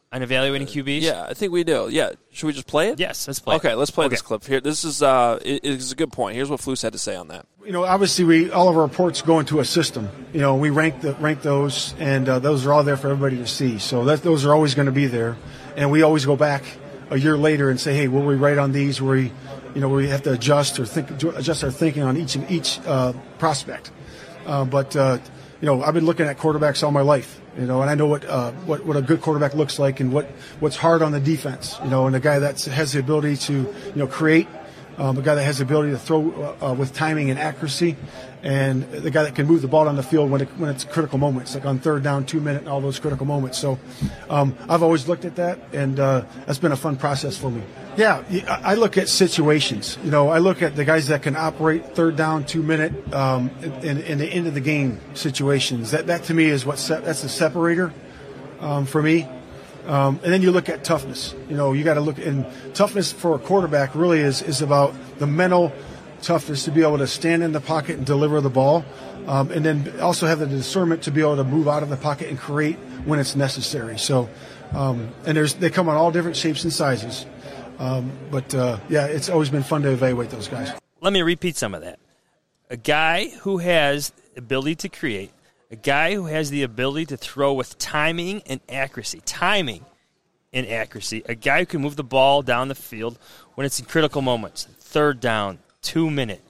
On evaluating Q Bs? Yeah, I think we do. Yeah. Should we just play it? Yes, let's play okay, it. let's play Okay. this clip here. This is uh, it, it's a good point. Here's what Flus had to say on that. You know, obviously, we all of our reports go into a system. You know, we rank the rank those, and uh, those are all there for everybody to see. So that those are always going to be there, and we always go back a year later and say, hey, were we right on these? Were we, you know, we have to adjust or think adjust our thinking on each each uh, prospect. Uh, but uh, you know, I've been looking at quarterbacks all my life. You know, and I know what, uh, what what a good quarterback looks like, and what, what's hard on the defense. You know, and a guy that has the ability to, you know, create, um, a guy that has the ability to throw uh, with timing and accuracy, and the guy that can move the ball down the field when it, when it's critical moments, like on third down, two minute, and all those critical moments. So, um, I've always looked at that, and uh, that's been a fun process for me. Yeah, I look at situations. You know, I look at the guys that can operate third down, two minute, um, in, in the end of the game situations. That that to me is what se- that's the separator um, for me. Um, and then you look at toughness. You know, you got to look and toughness for a quarterback really is is about the mental toughness to be able to stand in the pocket and deliver the ball, um, and then also have the discernment to be able to move out of the pocket and create when it's necessary. So, um, and there's they come on all different shapes and sizes. Um, but, uh, yeah, it's always been fun to evaluate those guys. Let me repeat some of that. A guy who has ability to create, a guy who has the ability to throw with timing and accuracy, timing and accuracy, a guy who can move the ball down the field when it's in critical moments, third down, two minute.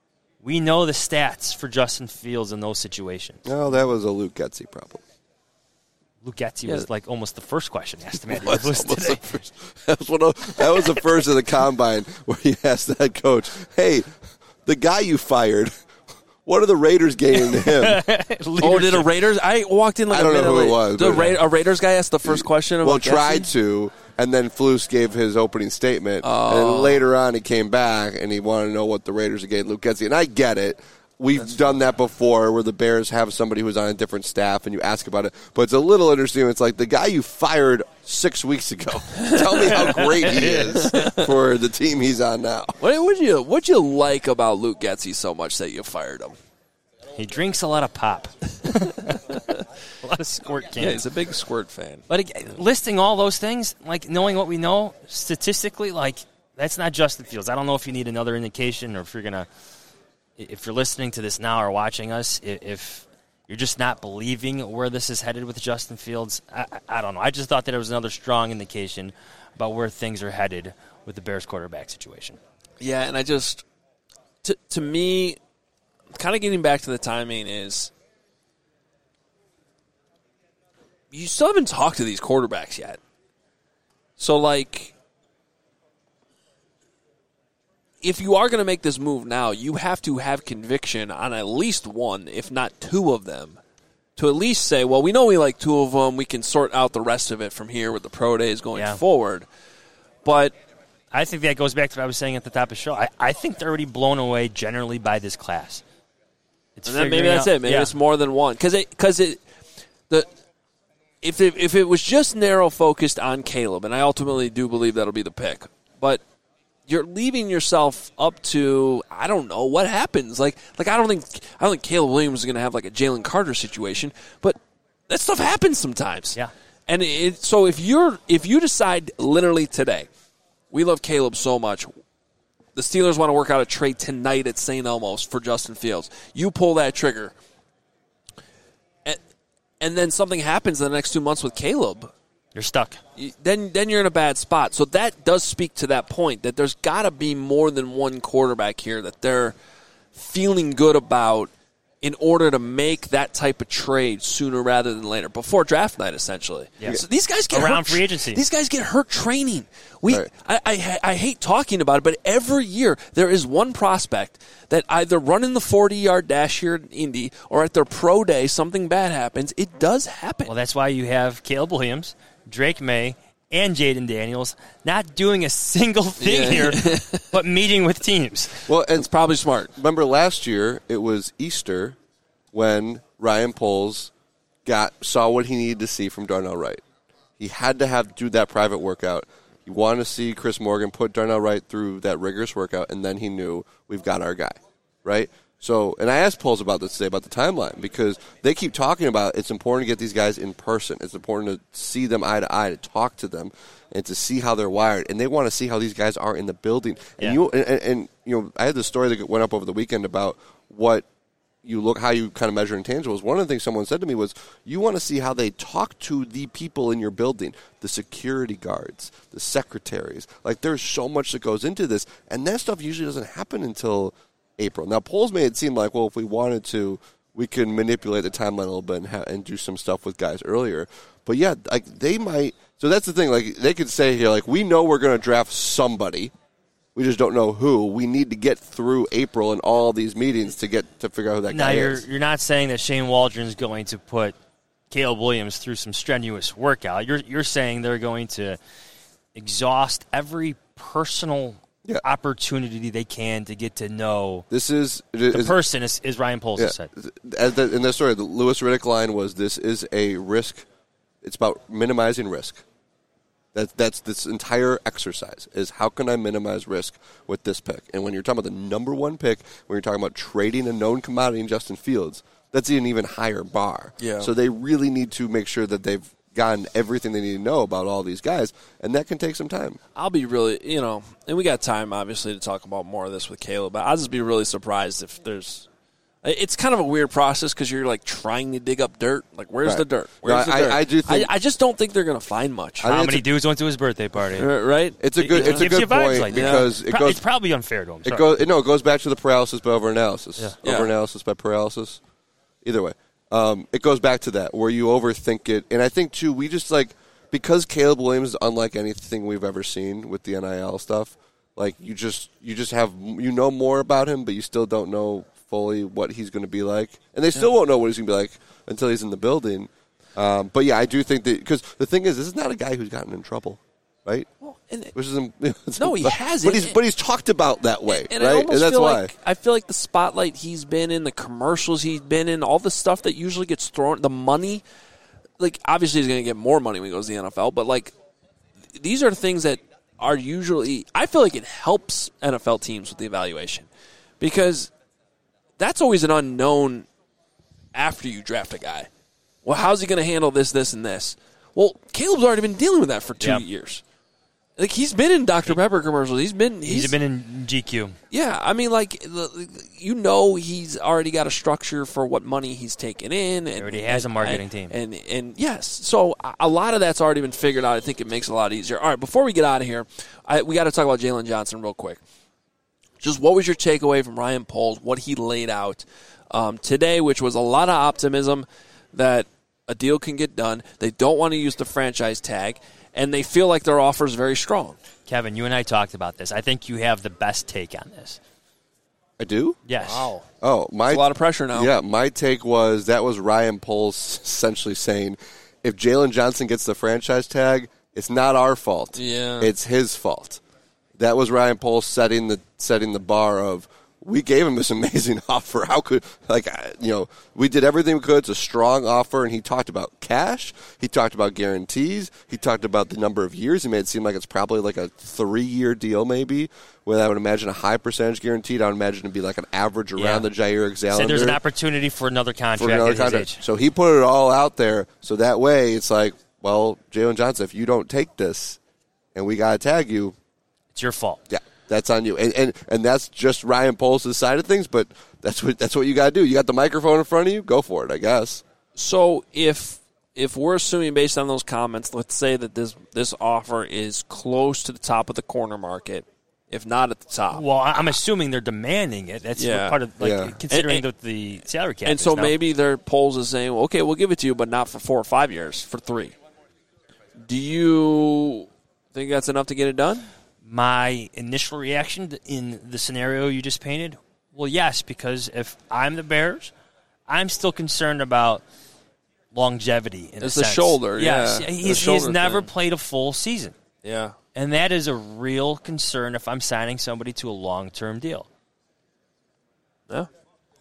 We know the stats for Justin Fields in those situations. No, that was a Luke Getsy problem. Luke Getsy yeah. was like almost the first question asked him. Was was today. First, that, was one of, that was the first of the combine where he asked the head coach, hey, the guy you fired, what are the Raiders gaining to him? Oh, did a Raiders? I walked in like I don't a know who it was. The Ra- a Raiders guy asked the first question about Well, Getsy? tried to, and then Flus gave his opening statement. Oh. And then later on he came back and he wanted to know what the Raiders gave Luke Getsy. And I get it. We've That's done funny. that before where the Bears have somebody who's on a different staff and you ask about it. But it's a little interesting. It's like the guy you fired six weeks ago. Tell me how great he is for the team he's on now. What would you What'd you like about Luke Getsy so much that you fired him? He drinks a lot of pop. A lot of squirt cans. Yeah, he's a big squirt fan. But again, listing all those things, like knowing what we know statistically, like that's not Justin Fields. I don't know if you need another indication or if you're going to If you're listening to this now or watching us, if you're just not believing where this is headed with Justin Fields, I, I don't know. I just thought that it was another strong indication about where things are headed with the Bears quarterback situation. Yeah, and I just, to, to me, kind of getting back to the timing is, you still haven't talked to these quarterbacks yet. So, like, if you are going to make this move now, you have to have conviction on at least one, if not two of them, to at least say, well, we know we like two of them. We can sort out the rest of it from here with the pro days going yeah. forward. But I think that goes back to what I was saying at the top of the show. I, I think they're already blown away generally by this class. It's and then maybe that's out, it. Maybe yeah. it's more than one. Because it, because it, the, if it, if it was just narrow focused on Caleb, and I ultimately do believe that'll be the pick, but you're leaving yourself up to, I don't know what happens. Like, like I don't think I don't think Caleb Williams is going to have like a Jalen Carter situation, but that stuff happens sometimes. Yeah. And it, so if you're if you decide literally today, we love Caleb so much, the Steelers want to work out a trade tonight at Saint Elmo's for Justin Fields. You pull that trigger, and, and then something happens in the next two months with Caleb. You're stuck. Then then you're in a bad spot. So that does speak to that point, that there's got to be more than one quarterback here that they're feeling good about in order to make that type of trade sooner rather than later, before draft night, essentially. Yeah. So these guys get around hurt, free agency. These guys get hurt training. We, right. I, I, I hate talking about it, but every year there is one prospect that either running the forty-yard dash here in Indy or at their pro day, something bad happens. It does happen. Well, that's why you have Caleb Williams, Drake May, and Jaden Daniels not doing a single thing Yeah. here, but meeting with teams. Well, and it's probably smart. Remember last year, it was Easter when Ryan Poles got saw what he needed to see from Darnell Wright. He had to have do that private workout. He wanted to see Chris Morgan put Darnell Wright through that rigorous workout, and then he knew we've got our guy, right? So, and I asked Poles about this today, about the timeline, because they keep talking about it's important to get these guys in person. It's important to see them eye to eye, to talk to them, and to see how they're wired. And they want to see how these guys are in the building. And Yeah. you and, and, and you know, I had this story that went up over the weekend about what you look, how you kind of measure intangibles. One of the things someone said to me was, you want to see how they talk to the people in your building, the security guards, the secretaries. Like, there's so much that goes into this, and that stuff usually doesn't happen until April. Now, Poles made it seem like, well, if we wanted to, we can manipulate the timeline a little bit and, ha- and do some stuff with guys earlier. But yeah, like they might. So that's the thing. Like they could say here, like we know we're going to draft somebody, we just don't know who. We need to get through April and all these meetings to get to figure out who that now guy you're, is. You're not saying that Shane Waldron's going to put Caleb Williams through some strenuous workout. You're you're saying they're going to exhaust every personal Yeah. opportunity they can to get to know This is the is- person, as, as Ryan Poles Yeah. has said. As the, in the story, the Lewis Riddick line was, "This is a risk. It's about minimizing risk." That that's this entire exercise is how can I minimize risk with this pick? And when you're talking about the number one pick, when you're talking about trading a known commodity in Justin Fields, that's an even higher bar. Yeah. So they really need to make sure that they've gotten everything they need to know about all these guys, and that can take some time. I'll be really, you know, and we got time, obviously, to talk about more of this with Caleb, but I'll just be really surprised if there's – it's kind of a weird process because you're, like, trying to dig up dirt. Like, where's Right. the dirt? No, Where's the I- dirt? I do think- I, I just don't think they're going to find much. How many dudes went to his birthday party? Right? It's a good. It It's a gives you good vibes point like that. because it Pro- goes. it's probably unfair to him. It Sorry. goes. No, it goes back to the paralysis by overanalysis. Yeah. Yeah. Overanalysis by paralysis. Either way, um, it goes back to that where you overthink it, and I think too we just like because Caleb Williams is unlike anything we've ever seen with the N I L stuff. Like you just you just have you know more about him, but you still don't know fully what he's going to be like, and they still Yeah. won't know what he's going to be like until he's in the building. Um, but yeah, I do think that because the thing is, this is not a guy who's gotten in trouble, right? and- Which is No, he but, hasn't. But he's but he's talked about that way, And right? I almost and that's feel why. like I feel like the spotlight he's been in, the commercials he's been in, all the stuff that usually gets thrown, the money. Like obviously he's going to get more money when he goes to the N F L, but like these are things that are usually. I feel like it helps N F L teams with the evaluation because that's always an unknown after you draft a guy. Well, how's he going to handle this, this, and this? Well, Caleb's already been dealing with that for two Yep. years. Like he's been in Doctor Pepper commercials. He's been He's been in G Q. yeah, I mean, like the, you know, he's already got a structure for what money he's taking in. And, He already has and- a marketing and, team. and and yes, so a- a lot of that's already been figured out. I think it makes it a lot easier. All right, before we get out of here, I, we got to talk about Jalen Johnson real quick. Just what was your takeaway from Ryan Poles? What he laid out um, today, which was a lot of optimism that a deal can get done. They don't want to use the franchise tag, and they feel like their offer is very strong. Kevin, you and I talked about this. I think you have the best take on this. I do? Yes. Wow. Oh, my That's a lot of pressure now. Yeah, my take was that was Ryan Poles essentially saying, if Jalen Johnson gets the franchise tag, it's not our fault. Yeah. It's his fault. That was Ryan Poles setting the setting the bar of we gave him this amazing offer. How could like I- you know we did everything we could. It's a strong offer, and he talked about cash. He talked about guarantees. He talked about the number of years. He made it seem like it's probably like a three year deal, maybe. With I would imagine a high percentage guaranteed. I would imagine it'd be like an average around Yeah. the Jair Alexander. Said there's an opportunity for another contract for another at his contract. age. So he put it all out there. So that way, it's like, well, Jalen Johnson, if you don't take this, and we got to tag you, it's your fault. Yeah, that's on you. And and, and that's just Ryan Poles' side of things. But that's what that's what you got to do. You got the microphone in front of you. Go for it, I guess. So if if we're assuming based on those comments, let's say that this this offer is close to the top of the corner market, if not at the top. Well, I- I'm assuming they're demanding it. That's Yeah. part of like Yeah. considering And- and- the, the salary cap. And is so now. maybe their polls is saying, well, okay, we'll give it to you, but not for four or five years, for three. Do you think that's enough to get it done? My initial reaction in the scenario you just painted, well, yes, because if I'm the Bears, I'm still concerned about longevity. In It's a the sense. shoulder, Yes, yeah. The he's, he's shoulder never thing. played a full season. Yeah. And that is a real concern if I'm signing somebody to a long-term deal. Yeah. Yeah.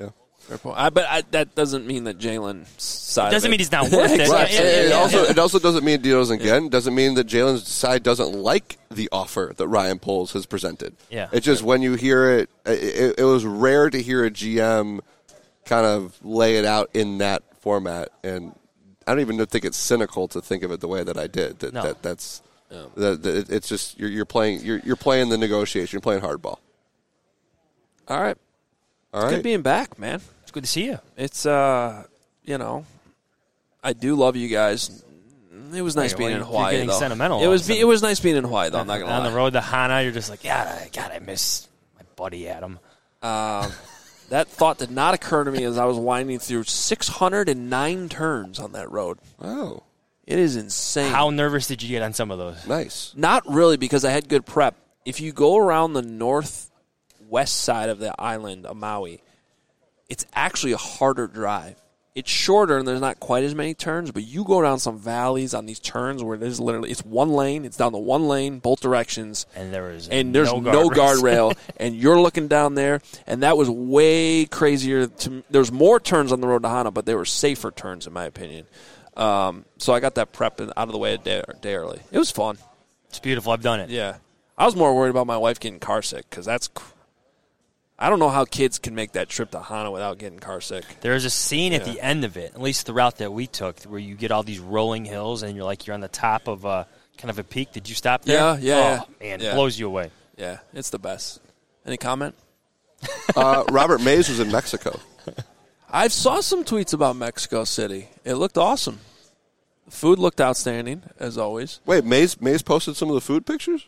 Fair point. I, but I, that doesn't mean that Jalen's side. It doesn't of it. mean he's not worth it. Right. Yeah, And yeah, it yeah. also it also doesn't mean he doesn't get. It doesn't mean that Jalen's side doesn't like the offer that Ryan Poles has presented. Yeah. It's just when you hear it, it, it was rare to hear a G M kind of lay it out in that format, and I don't even think it's cynical to think of it the way that I did. That, No. that that's Yeah. that, that it's just you're, you're playing you're, you're playing the negotiation. You're playing hardball. All right. All It's right. good being back, man. It's good to see you. It's, uh, you know, I do love you guys. It was nice Wait, being why in you're Hawaii, getting though. sentimental It all was of a be, sudden. it was nice being in Hawaii, though. I'm not gonna On lie. the road to Hana, you're just like, yeah, God, I miss my buddy Adam. Um, that thought did not occur to me as I was winding through six hundred nine turns on that road. Oh, it is insane. How nervous did you get on some of those? Nice. Not really, because I had good prep. If you go around the northwest side of the island of Maui, it's actually a harder drive. It's shorter and there's not quite as many turns, but you go down some valleys on these turns where there's literally it's one lane, it's down to one lane, both directions, and there is and there's no no guardrails. guardrail, and you're looking down there, and that was way crazier. To there's more turns on the road to Hana, but they were safer turns in my opinion. Um, so I got that prep out of the way a day, a day early. It was fun. It's beautiful. I've done it. Yeah, I was more worried about my wife getting car sick because that's. Cr- I don't know how kids can make that trip to Hana without getting car sick. There's a scene at Yeah. the end of it, at least the route that we took, where you get all these rolling hills and you're like you're on the top of a kind of a peak. Did you stop there? Yeah, yeah, Oh, yeah. man, Yeah. it blows you away. Yeah, it's the best. Any comment? Uh, Robert Mays was in Mexico. I saw some tweets about Mexico City. It looked awesome. The food looked outstanding, as always. Wait, Mays Mays posted some of the food pictures.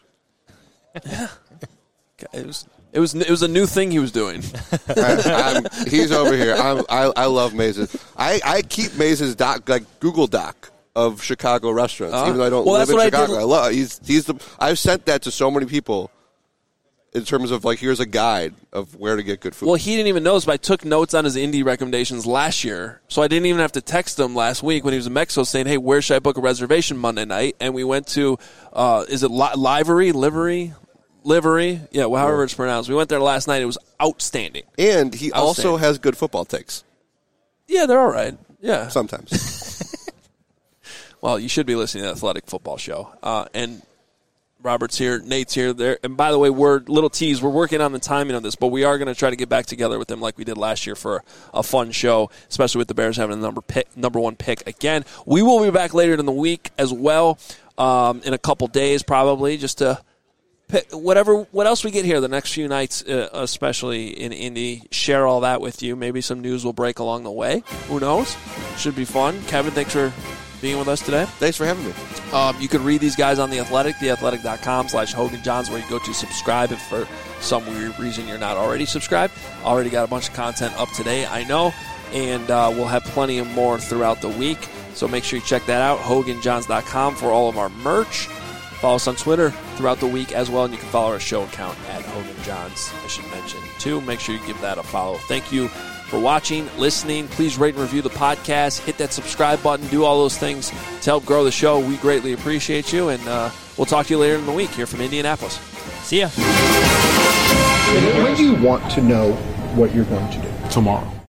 It was it was it was a new thing he was doing. I, I'm, he's over here. I'm, I I love Maze's. I, I keep Maze's doc like Google Doc of Chicago restaurants, Uh, even though I don't well, live that's in what I Chicago. did- I, love. He's he's the. I've sent that to so many people. In terms of like, here's a guide of where to get good food. Well, he didn't even notice, but I took notes on his indie recommendations last year, so I didn't even have to text him last week when he was in Mexico saying, hey, where should I book a reservation Monday night? And we went to, uh, is it li- Livery? Livery? Livery? Yeah, well, however it's pronounced. We went there last night. It was outstanding. And he also Outstanding. has good football takes. Yeah, they're all right. Yeah. Sometimes. Well, you should be listening to the Athletic Football Show. Uh, and Robert's here, Nate's here. There, and by the way, we're little tease. We're working on the timing of this, but we are going to try to get back together with them like we did last year for a fun show, especially with the Bears having the number pick, number one pick again. We will be back later in the week as well, um, in a couple days probably, just to pick whatever what else we get here the next few nights, uh, especially in Indy. Share all that with you. Maybe some news will break along the way. Who knows? Should be fun. Kevin, thanks for being with us today. Thanks for having me. Um, you can read these guys on The Athletic, theathletic.com slash Hogan Johns, where you go to subscribe if for some weird reason you're not already subscribed. Already got a bunch of content up today, I know, and uh, we'll have plenty of more throughout the week. So make sure you check that out, hogan johns dot com, for all of our merch. Follow us on Twitter throughout the week as well, and you can follow our show account at Hogan Johns, I should mention, too. Make sure you give that a follow. Thank you for watching, listening. Please rate and review the podcast. Hit that subscribe button. Do all those things to help grow the show. We greatly appreciate you, and uh, we'll talk to you later in the week here from Indianapolis. See ya. When do you want to know what you're going to do? Tomorrow.